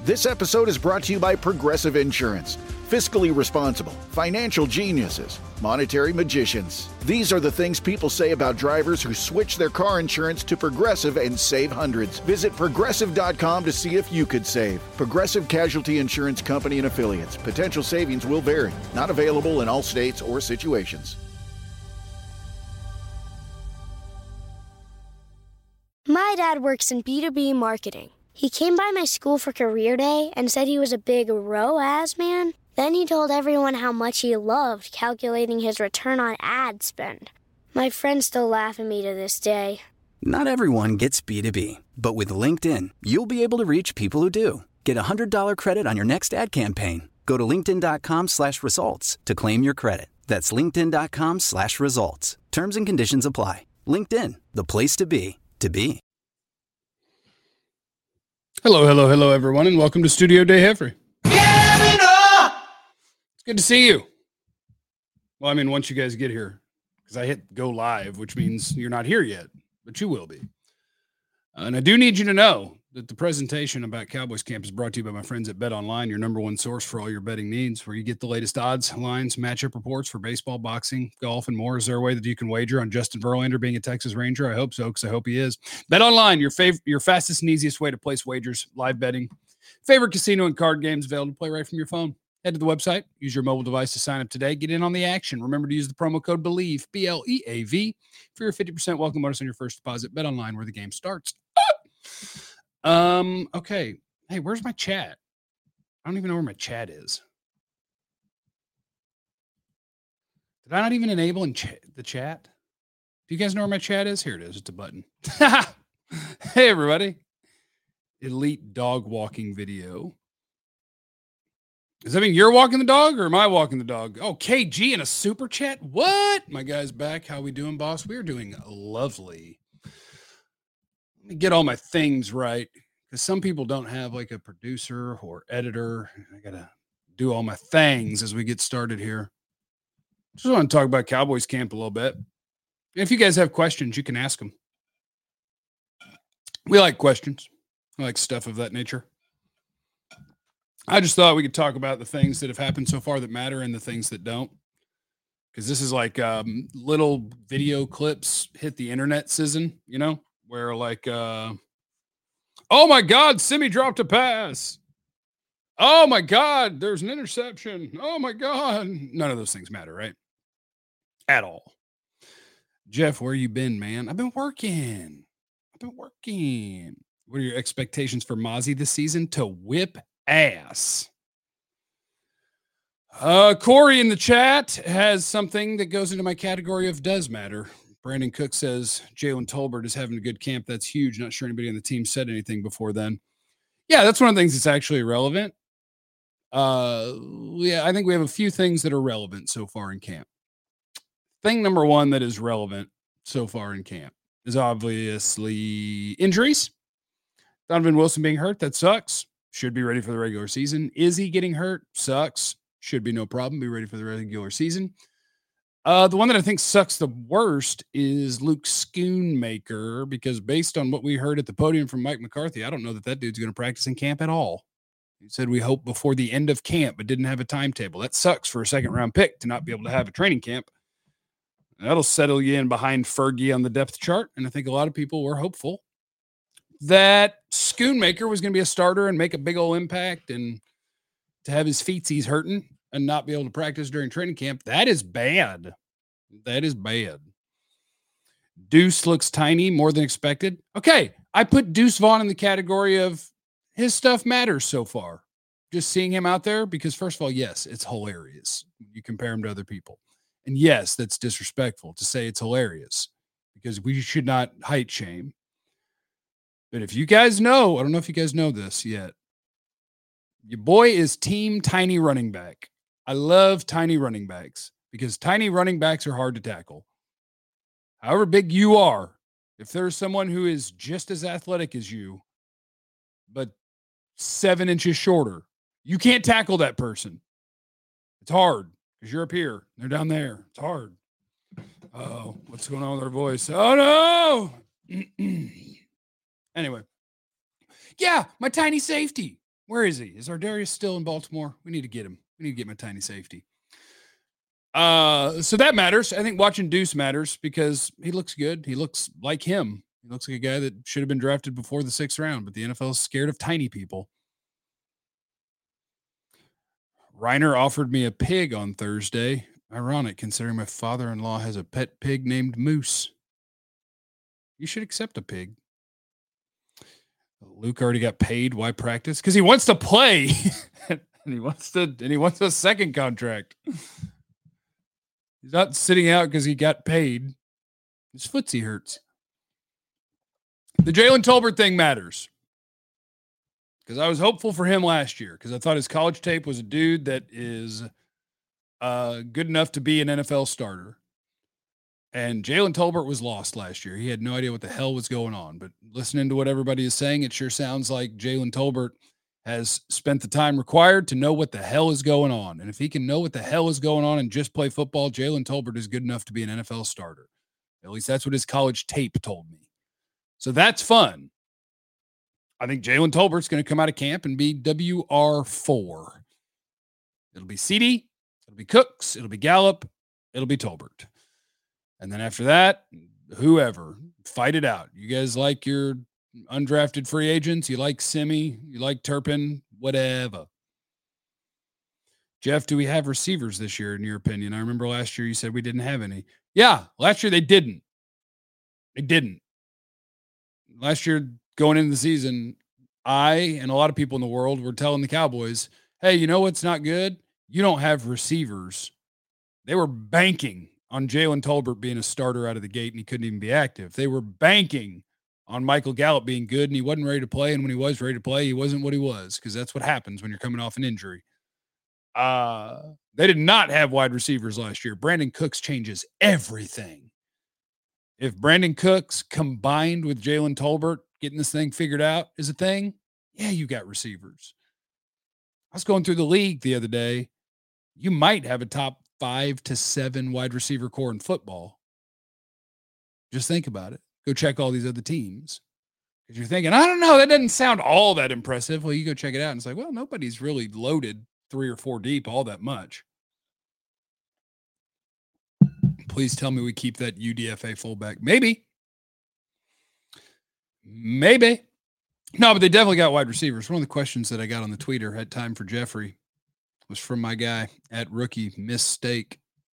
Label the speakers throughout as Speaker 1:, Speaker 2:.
Speaker 1: This episode is brought to you by Progressive Insurance. Fiscally responsible, financial geniuses, monetary magicians. These are the things people say about drivers who switch their car insurance to Progressive and save hundreds. Visit Progressive.com to see if you could save. Progressive Casualty Insurance Company and Affiliates. Potential savings will vary. Not available in all states or situations.
Speaker 2: My dad works in B2B marketing. He came by my school for career day and said he was a big ROAS man. Then he told everyone how much he loved calculating his return on ad spend. My friends still laugh at me to this day.
Speaker 3: Not everyone gets B2B, but with LinkedIn, you'll be able to reach people who do. Get a $100 credit on your next ad campaign. Go to linkedin.com/results to claim your credit. That's linkedin.com/results. Terms and conditions apply. LinkedIn, the place to be, to be.
Speaker 4: Hello, everyone, and welcome to Studio Day Heffrey. It's good to see you. Well, I mean, once you guys get here, because I hit go live, which means you're not here yet, but you will be. And I do need you to know that the presentation about Cowboys Camp is brought to you by my friends at BetOnline, your number one source for all your betting needs, where you get the latest odds, lines, matchup reports for baseball, boxing, golf, and more. Is there a way that you can wager on Justin Verlander being a Texas Ranger? I hope so, because I hope he is. BetOnline, your fastest and easiest way to place wagers, live betting, favorite casino and card games available to play right from your phone. Head to the website, use your mobile device to sign up today. Get in on the action. Remember to use the promo code BELIEVE, BLEAV, for your 50% welcome bonus on your first deposit. BetOnline, where the game starts. Okay. Hey, where's my chat? I don't even know where my chat is. Did I not even enable the chat? Do you guys know where my chat is? Here it is. It's a button. Hey, everybody. Elite dog walking video. Does that mean you're walking the dog or am I walking the dog? Oh, KG in a super chat? What? My guy's back. How we doing, boss? We're doing lovely. Let me get all my things right, because some people don't have like a producer or editor. I got to do all my things as we get started here. Just want to talk about Cowboys Camp a little bit. If you guys have questions, you can ask them. We like questions. I like stuff of that nature. I just thought we could talk about the things that have happened so far that matter and the things that don't. Because this is like little video clips hit the internet season, you know, where like, oh my God, Simi dropped a pass. Oh my God, there's an interception. Oh my God. None of those things matter, right? At all. Jeff, where you been, man? I've been working. What are your expectations for Mozzie this season? To whip ass. Corey in the chat has something that goes into my category of does matter. Brandon Cook says Jalen Tolbert is having a good camp. That's huge. Not sure anybody on the team said anything before then. Yeah, that's one of the things that's actually relevant. Yeah, I think we have a few things that are relevant so far in camp. Thing number one that is relevant so far in camp is obviously injuries. Donovan Wilson being hurt, that sucks. Should be ready for the regular season. Is he getting hurt? Sucks. Should be no problem. Be ready for the regular season. The one that I think sucks the worst is Luke Schoonmaker, because based on what we heard at the podium from Mike McCarthy, I don't know that dude's going to practice in camp at all. He said we hope before the end of camp, but didn't have a timetable. That sucks for a second-round pick to not be able to have a training camp. That'll settle you in behind Fergie on the depth chart, and I think a lot of people were hopeful that Schoonmaker was going to be a starter and make a big old impact, and to have his feetsies hurting and not be able to practice during training camp, that is bad. That is bad. Deuce looks tiny, more than expected. Okay, I put Deuce Vaughn in the category of his stuff matters so far. Just seeing him out there, because first of all, yes, it's hilarious. You compare him to other people. And yes, that's disrespectful to say it's hilarious, because we should not height shame. But if you guys know, I don't know if you guys know this yet, your boy is team tiny running back. I love tiny running backs because tiny running backs are hard to tackle. However big you are, if there's someone who is just as athletic as you, but 7 inches shorter, you can't tackle that person. It's hard because you're up here. They're down there. It's hard. Oh, what's going on with our voice? Oh, no. Anyway. Yeah, my tiny safety. Where is he? Is Ardarius still in Baltimore? We need to get him. We need to get my tiny safety. So that matters. I think watching Deuce matters because he looks good. He looks like him. He looks like a guy that should have been drafted before the 6th round, but the NFL is scared of tiny people. Reiner offered me a pig on Thursday. Ironic, considering my father-in-law has a pet pig named Moose. You should accept a pig. Luke already got paid. Why practice? Because he wants to play, and he wants a second contract. He's not sitting out because he got paid. His footsie hurts. The Jalen Tolbert thing matters because I was hopeful for him last year because I thought his college tape was a dude that is good enough to be an NFL starter. And Jalen Tolbert was lost last year. He had no idea what the hell was going on. But listening to what everybody is saying, it sure sounds like Jalen Tolbert has spent the time required to know what the hell is going on. And if he can know what the hell is going on and just play football, Jalen Tolbert is good enough to be an NFL starter. At least that's what his college tape told me. So that's fun. I think Jalen Tolbert's going to come out of camp and be WR4. It'll be CD, it'll be Cooks, it'll be Gallup, it'll be Tolbert. And then after that, whoever, fight it out. You guys like your undrafted free agents? You like Simi? You like Turpin? Whatever. Jeff, do we have receivers this year, in your opinion? I remember last year you said we didn't have any. Yeah, last year they didn't. They didn't. Last year, going into the season, I and a lot of people in the world were telling the Cowboys, hey, you know what's not good? You don't have receivers. They were banking on Jalen Tolbert being a starter out of the gate, and he couldn't even be active. They were banking on Michael Gallup being good, and he wasn't ready to play, and when he was ready to play, he wasn't what he was, because that's what happens when you're coming off an injury. They did not have wide receivers last year. Brandon Cooks changes everything. If Brandon Cooks combined with Jalen Tolbert getting this thing figured out is a thing, yeah, you got receivers. I was going through the league the other day. You might have a top 5 to 7 wide receiver core in football. Just think about it. Go check all these other teams. Because you're thinking, I don't know, that doesn't sound all that impressive. Well, you go check it out and it's like, well, nobody's really loaded 3 or 4 deep all that much. Please tell me we keep that UDFA fullback. Maybe. No, but they definitely got wide receivers. One of the questions that I got on the tweeter, had time for Jeffrey, was from my guy at Rookie Mistake.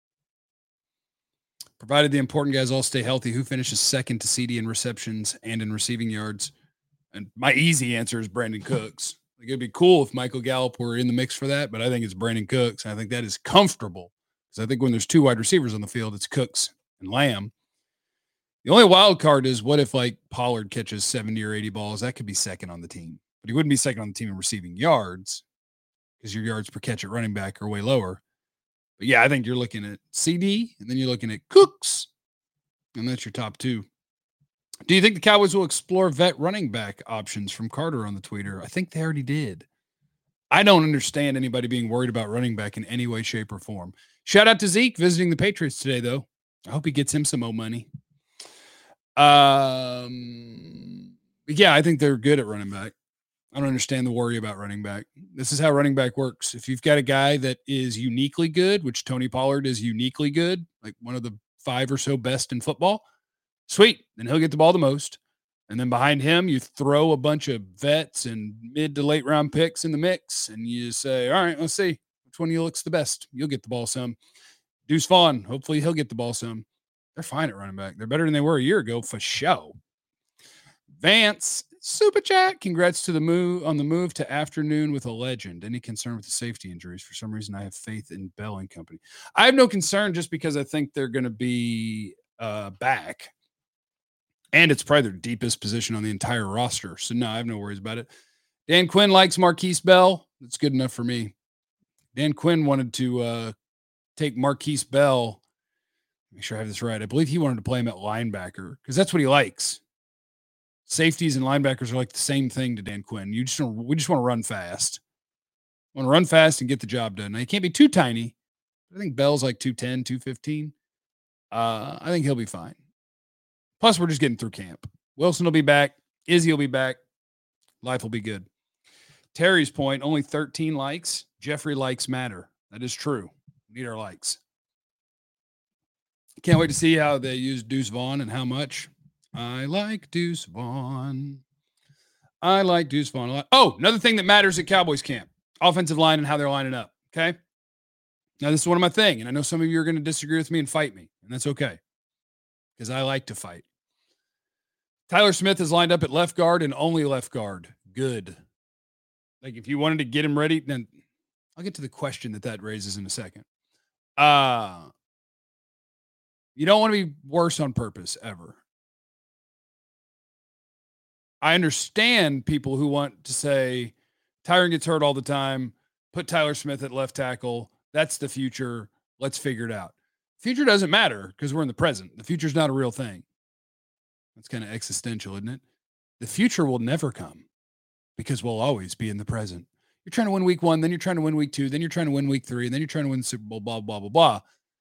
Speaker 4: Provided the important guys all stay healthy, who finishes second to CD in receptions and in receiving yards? And my easy answer is Brandon Cooks. Like, it'd be cool if Michael Gallup were in the mix for that, but I think it's Brandon Cooks. And I think that is comfortable because I think when there's 2 wide receivers on the field, it's Cooks and Lamb. The only wild card is what if like Pollard catches 70 or 80 balls? That could be second on the team, but he wouldn't be second on the team in receiving yards because your yards per catch at running back are way lower. But yeah, I think you're looking at CD and then you're looking at Cooks, and that's your top 2. Do you think the Cowboys will explore vet running back options from Carter on the tweeter? I think they already did. I don't understand anybody being worried about running back in any way, shape, or form. Shout out to Zeke visiting the Patriots today, though. I hope he gets him some more money. Yeah, I think they're good at running back. I don't understand the worry about running back. This is how running back works. If you've got a guy that is uniquely good, which Tony Pollard is uniquely good, like one of the 5 or so best in football, sweet, then he'll get the ball the most. And then behind him, you throw a bunch of vets and mid to late round picks in the mix, and you say, all right, let's see which one of you looks the best. You'll get the ball some. Deuce Vaughn, hopefully he'll get the ball some. They're fine at running back. They're better than they were a year ago for show. Vance, super chat. Congrats to the move to afternoon with a legend. Any concern with the safety injuries? For some reason, I have faith in Bell and company. I have no concern just because I think they're going to be back. And it's probably their deepest position on the entire roster. So no, I have no worries about it. Dan Quinn likes Marquise Bell. That's good enough for me. Dan Quinn wanted to take Marquise Bell. Make sure I have this right. I believe he wanted to play him at linebacker because that's what he likes. Safeties and linebackers are like the same thing to Dan Quinn. We just want to run fast. Want to run fast and get the job done. Now, he can't be too tiny. I think Bell's like 210, 215. I think he'll be fine. Plus, we're just getting through camp. Wilson will be back. Izzy will be back. Life will be good. Terry's point, only 13 likes. Jeffrey likes matter. That is true. We need our likes. Can't wait to see how they use Deuce Vaughn and how much. I like Deuce Vaughn. I like Deuce Vaughn a lot. Oh, another thing that matters at Cowboys camp, offensive line and how they're lining up. Okay. Now, this is one of my things, and I know some of you are going to disagree with me and fight me, and that's okay because I like to fight. Tyler Smith is lined up at left guard and only left guard. Good. Like, if you wanted to get him ready, then I'll get to the question that raises in a second. You don't want to be worse on purpose ever. I understand people who want to say Tyron gets hurt all the time. Put Tyler Smith at left tackle. That's the future. Let's figure it out. Future doesn't matter because we're in the present. The future's not a real thing. That's kind of existential, isn't it? The future will never come because we'll always be in the present. You're trying to win week 1, then you're trying to win week 2, then you're trying to win week 3, and then you're trying to win the Super Bowl, blah, blah, blah, blah.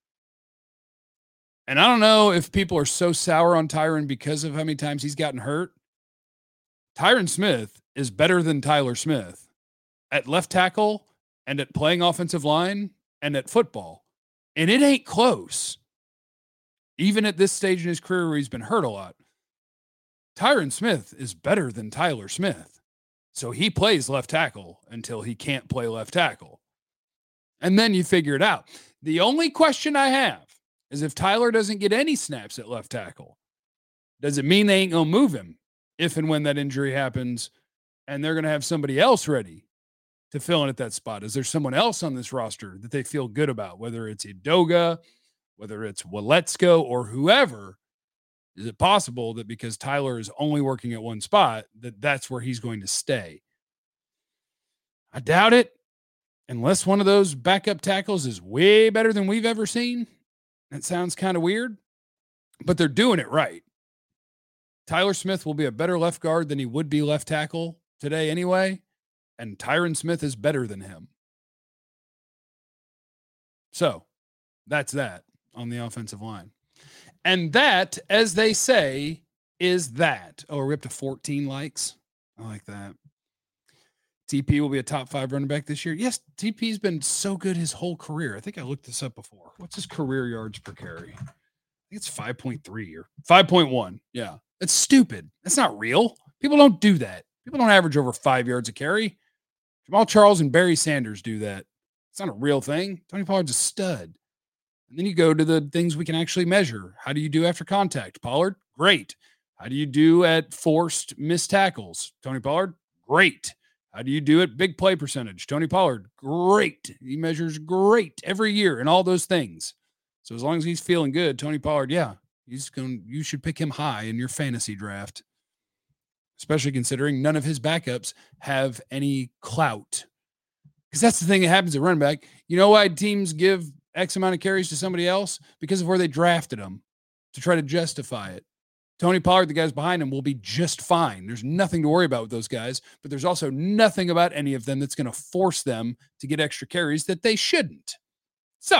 Speaker 4: And I don't know if people are so sour on Tyron because of how many times he's gotten hurt. Tyron Smith is better than Tyler Smith at left tackle and at playing offensive line and at football. And it ain't close. Even at this stage in his career where he's been hurt a lot, Tyron Smith is better than Tyler Smith. So he plays left tackle until he can't play left tackle. And then you figure it out. The only question I have is if Tyler doesn't get any snaps at left tackle, does it mean they ain't going to move him if and when that injury happens and they're going to have somebody else ready to fill in at that spot? Is there someone else on this roster that they feel good about, whether it's Edoga, whether it's Waletzko or whoever? Is it possible that because Tyler is only working at one spot, that's where he's going to stay? I doubt it, unless one of those backup tackles is way better than we've ever seen. That sounds kind of weird, but they're doing it right. Tyler Smith will be a better left guard than he would be left tackle today anyway, and Tyron Smith is better than him. So that's that on the offensive line. And that, as they say, is that. Oh, are we up to 14 likes? I like that. TP will be a top 5 running back this year. Yes, TP's been so good his whole career. I think I looked this up before. What's his career yards per carry? I think it's 5.3 or 5.1. Yeah, that's stupid. That's not real. People don't do that. People don't average over 5 yards a carry. Jamal Charles and Barry Sanders do that. It's not a real thing. Tony Pollard's a stud. And then you go to the things we can actually measure. How do you do after contact? Pollard, great. How do you do at forced missed tackles? Tony Pollard, great. How do you do at big play percentage? Tony Pollard, great. He measures great every year in all those things. So as long as he's feeling good, Tony Pollard, yeah, you should pick him high in your fantasy draft, especially considering none of his backups have any clout. Because that's the thing that happens at running back. You know why teams give X amount of carries to somebody else? Because of where they drafted them to try to justify it. Tony Pollard, the guys behind him, will be just fine. There's nothing to worry about with those guys, but there's also nothing about any of them that's going to force them to get extra carries that they shouldn't. So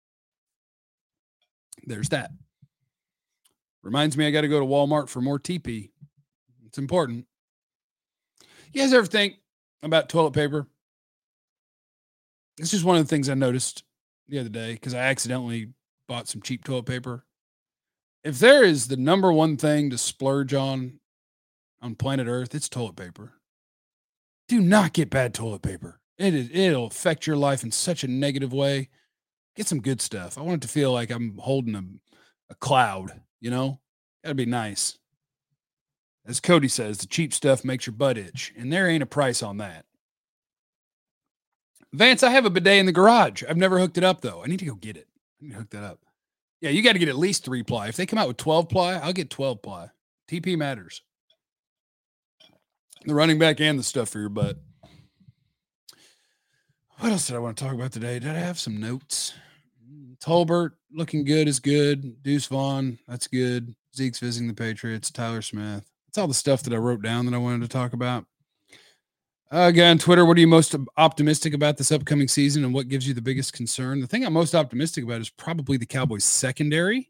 Speaker 4: there's that. Reminds me I got to go to Walmart for more TP. It's important. You guys ever think about toilet paper? It's just one of the things I noticed the other day because I accidentally bought some cheap toilet paper. If there is the number one thing to splurge on planet Earth, it's toilet paper. Do not get bad toilet paper. It'll affect your life in such a negative way. Get some good stuff. I want it to feel like I'm holding a cloud, you know? Gotta be nice. As Cody says, the cheap stuff makes your butt itch, and there ain't a price on that. Vance, I have a bidet in the garage. I've never hooked it up, though. I need to go get it. I need to hook that up. Yeah, you got to get at least 3-ply. If they come out with 12-ply, I'll get 12-ply. TP matters. The running back and the stuff for your butt. What else did I want to talk about today? Did I have some notes? Tolbert, looking good is good. Deuce Vaughn, that's good. Zeke's visiting the Patriots. Tyler Smith. That's all the stuff that I wrote down that I wanted to talk about. Guy on Twitter, what are you most optimistic about this upcoming season and what gives you the biggest concern? The thing I'm most optimistic about is probably the Cowboys secondary.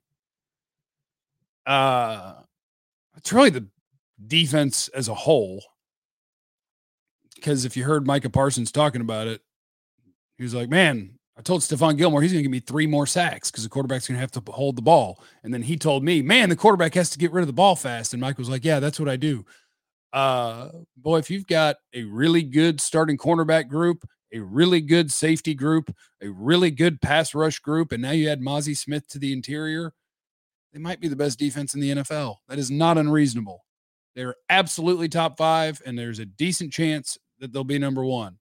Speaker 4: It's really the defense as a whole. because if you heard Micah Parsons talking about it, he was like, man, I told Stephon Gilmore he's going to give me 3 more sacks because the quarterback's going to have to hold the ball. And then he told me, man, the quarterback has to get rid of the ball fast. And Mike was like, yeah, that's what I do. Boy, if you've got a really good starting cornerback group, a really good safety group, a really good pass rush group, and now you add Mozzie Smith to the interior, they might be the best defense in the NFL. That is not unreasonable. They're absolutely top 5, and there's a decent chance that they'll be number 1.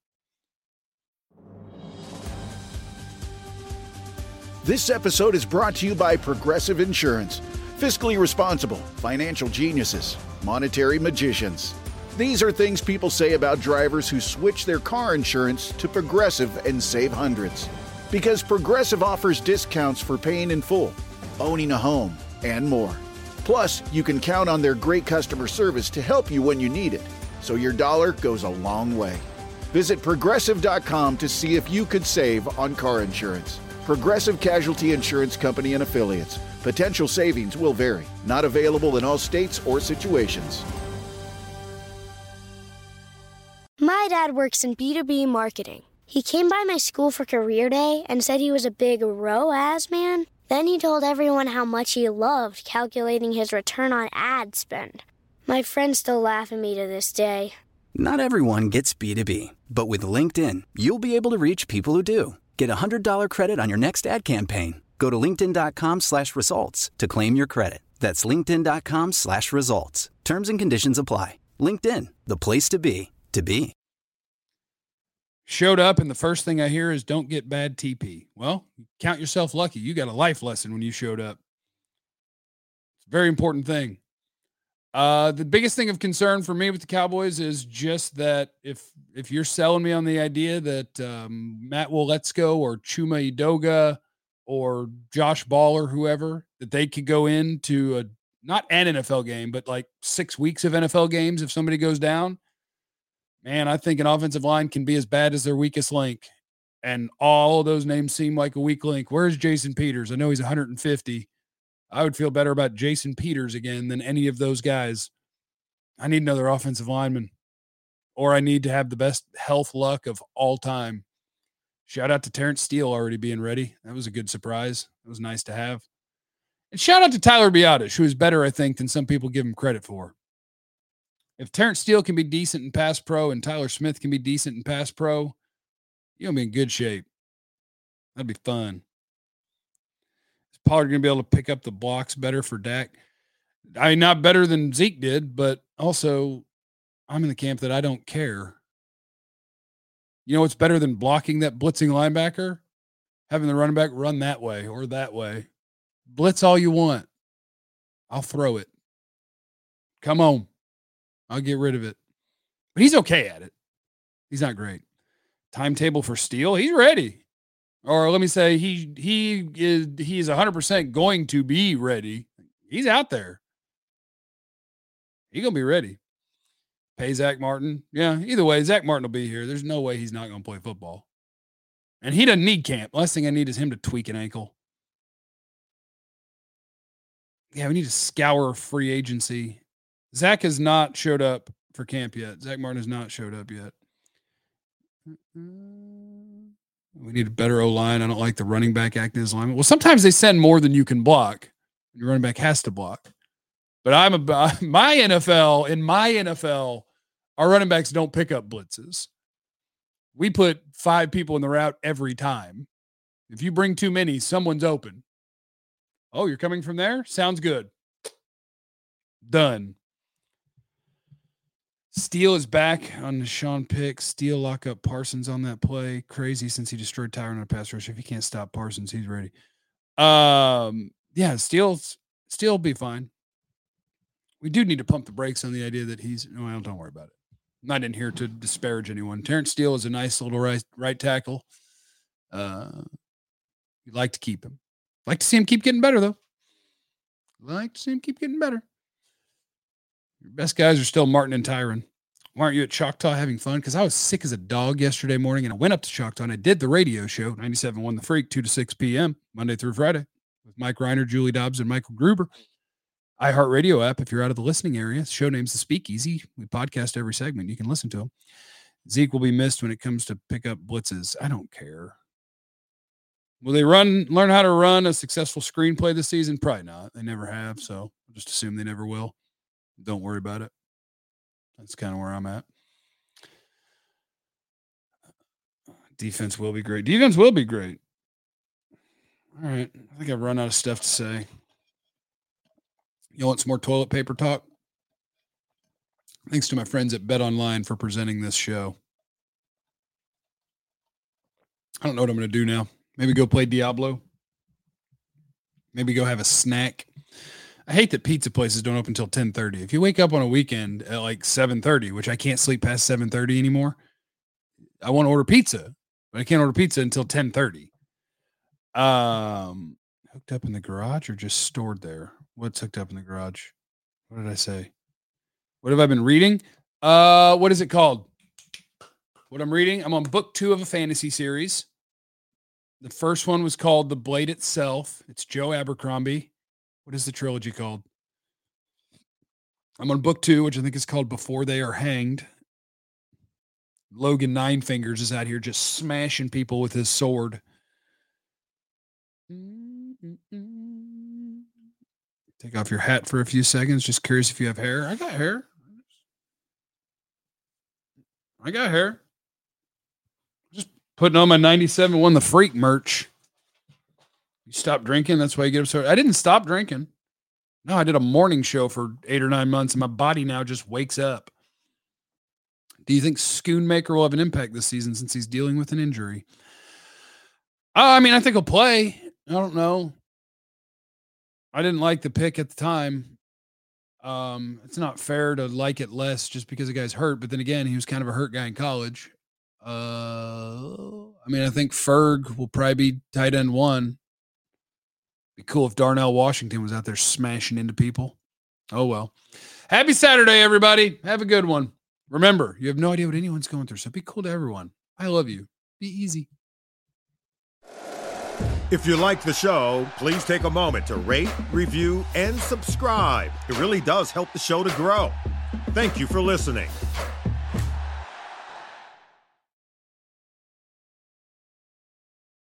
Speaker 1: This episode is brought to you by Progressive Insurance. Fiscally responsible, financial geniuses, monetary magicians. These are things people say about drivers who switch their car insurance to Progressive and save hundreds. Because Progressive offers discounts for paying in full, owning a home, and more. Plus, you can count on their great customer service to help you when you need it, so your dollar goes a long way. Visit Progressive.com to see if you could save on car insurance. Progressive Casualty Insurance Company and Affiliates. Potential savings will vary. Not available in all states or situations.
Speaker 2: My dad works in B2B marketing. He came by my school for career day and said he was a big ROAS man. Then he told everyone how much he loved calculating his return on ad spend. My friends still laugh at me to this day.
Speaker 3: Not everyone gets B2B, but with LinkedIn, you'll be able to reach people who do. Get a $100 credit on your next ad campaign. Go to linkedin.com/results to claim your credit. That's linkedin.com/results. Terms and conditions apply. LinkedIn, the place to be, to be.
Speaker 4: Showed up, and the first thing I hear is don't get bad TP. Well, count yourself lucky. You got a life lesson when you showed up. It's a very important thing. The biggest thing of concern for me with the Cowboys is just that if you're selling me on the idea that Matt Woletsko or Chuma Edoga or Josh Ball or whoever, that they could go into not an NFL game, but like 6 weeks of NFL games if somebody goes down, man, I think an offensive line can be as bad as their weakest link. And all of those names seem like a weak link. Where's Jason Peters? I know he's 150. I would feel better about Jason Peters again than any of those guys. I need another offensive lineman, or I need to have the best health luck of all time. Shout out to Terrence Steele already being ready. That was a good surprise. It was nice to have. And shout out to Tyler Biadasz, who is better, I think, than some people give him credit for. If Terrence Steele can be decent in pass pro and Tyler Smith can be decent in pass pro, you're going to be in good shape. That'd be fun. Pollard going to be able to pick up the blocks better for Dak. I mean, not better than Zeke did, but also I'm in the camp that I don't care. You know what's better than blocking that blitzing linebacker? Having the running back run that way or that way. Blitz all you want. I'll throw it. Come on. I'll get rid of it. But he's okay at it. He's not great. Timetable for Steele, he's ready. Or let me say he is 100% going to be ready. He's out there. He's going to be ready. Pay Zach Martin. Yeah, either way, Zach Martin will be here. There's no way he's not going to play football. And he doesn't need camp. Last thing I need is him to tweak an ankle. Yeah, we need to scour free agency. Zach has not showed up for camp yet. Zach Martin has not showed up yet. We need a better O-line. I don't like the running back acting as lineman. Well, sometimes they send more than you can block. Your running back has to block. But in my NFL, our running backs don't pick up blitzes. We put 5 people in the route every time. If you bring too many, someone's open. Oh, you're coming from there? Sounds good. Done. Steele is back on the Sean Pick. Steele lock up Parsons on that play. Crazy since he destroyed Tyron on a pass rush. If he can't stop Parsons, he's ready. Yeah, Steele will be fine. We do need to pump the brakes on the idea that don't worry about it. I'm not in here to disparage anyone. Terrence Steele is a nice little right tackle. You'd like to keep him. Like to see him keep getting better, though. Like to see him keep getting better. Your best guys are still Martin and Tyron. Why aren't you at Choctaw having fun? Because I was sick as a dog yesterday morning, and I went up to Choctaw, and I did the radio show, 97.1 The Freak, 2 to 6 p.m., Monday through Friday, with Mike Reiner, Julie Dobbs, and Michael Gruber. iHeartRadio app, if you're out of the listening area. The show name's The Speakeasy. We podcast every segment. You can listen to them. Zeke will be missed when it comes to pick up blitzes. I don't care. Will they learn how to run a successful screenplay this season? Probably not. They never have, so I'll just assume they never will. Don't worry about it. That's kind of where I'm at. Defense will be great. Defense will be great. All right. I think I've run out of stuff to say. You want some more toilet paper talk? Thanks to my friends at Bet Online for presenting this show. I don't know what I'm going to do now. Maybe go play Diablo. Maybe go have a snack. I hate that pizza places don't open until 10:30. If you wake up on a weekend at like 7:30, which I can't sleep past 7:30 anymore, I want to order pizza, but I can't order pizza until 10:30. Hooked up in the garage or just stored there? What's hooked up in the garage? What did I say? What have I been reading? What is it called? What I'm reading? I'm on book 2 of a fantasy series. The first one was called The Blade Itself. It's Joe Abercrombie. What is the trilogy called? I'm on book 2, which I think is called Before They Are Hanged. Logan Nine Fingers is out here just smashing people with his sword. Take off your hat for a few seconds. Just curious if you have hair. I got hair. Just putting on my 97 Won the Freak merch. You stop drinking. That's why you get upset. I didn't stop drinking. No, I did a morning show for 8 or 9 months, and my body now just wakes up. Do you think Schoonmaker will have an impact this season since he's dealing with an injury? I mean, I think he'll play. I don't know. I didn't like the pick at the time. It's not fair to like it less just because the guy's hurt. But then again, he was kind of a hurt guy in college. I mean, I think Ferg will probably be tight end 1. Be cool if Darnell Washington was out there smashing into people. Oh, well. Happy Saturday, everybody. Have a good one. Remember, you have no idea what anyone's going through, so be cool to everyone. I love you. Be easy.
Speaker 5: If you like the show, please take a moment to rate, review, and subscribe. It really does help the show to grow. Thank you for listening.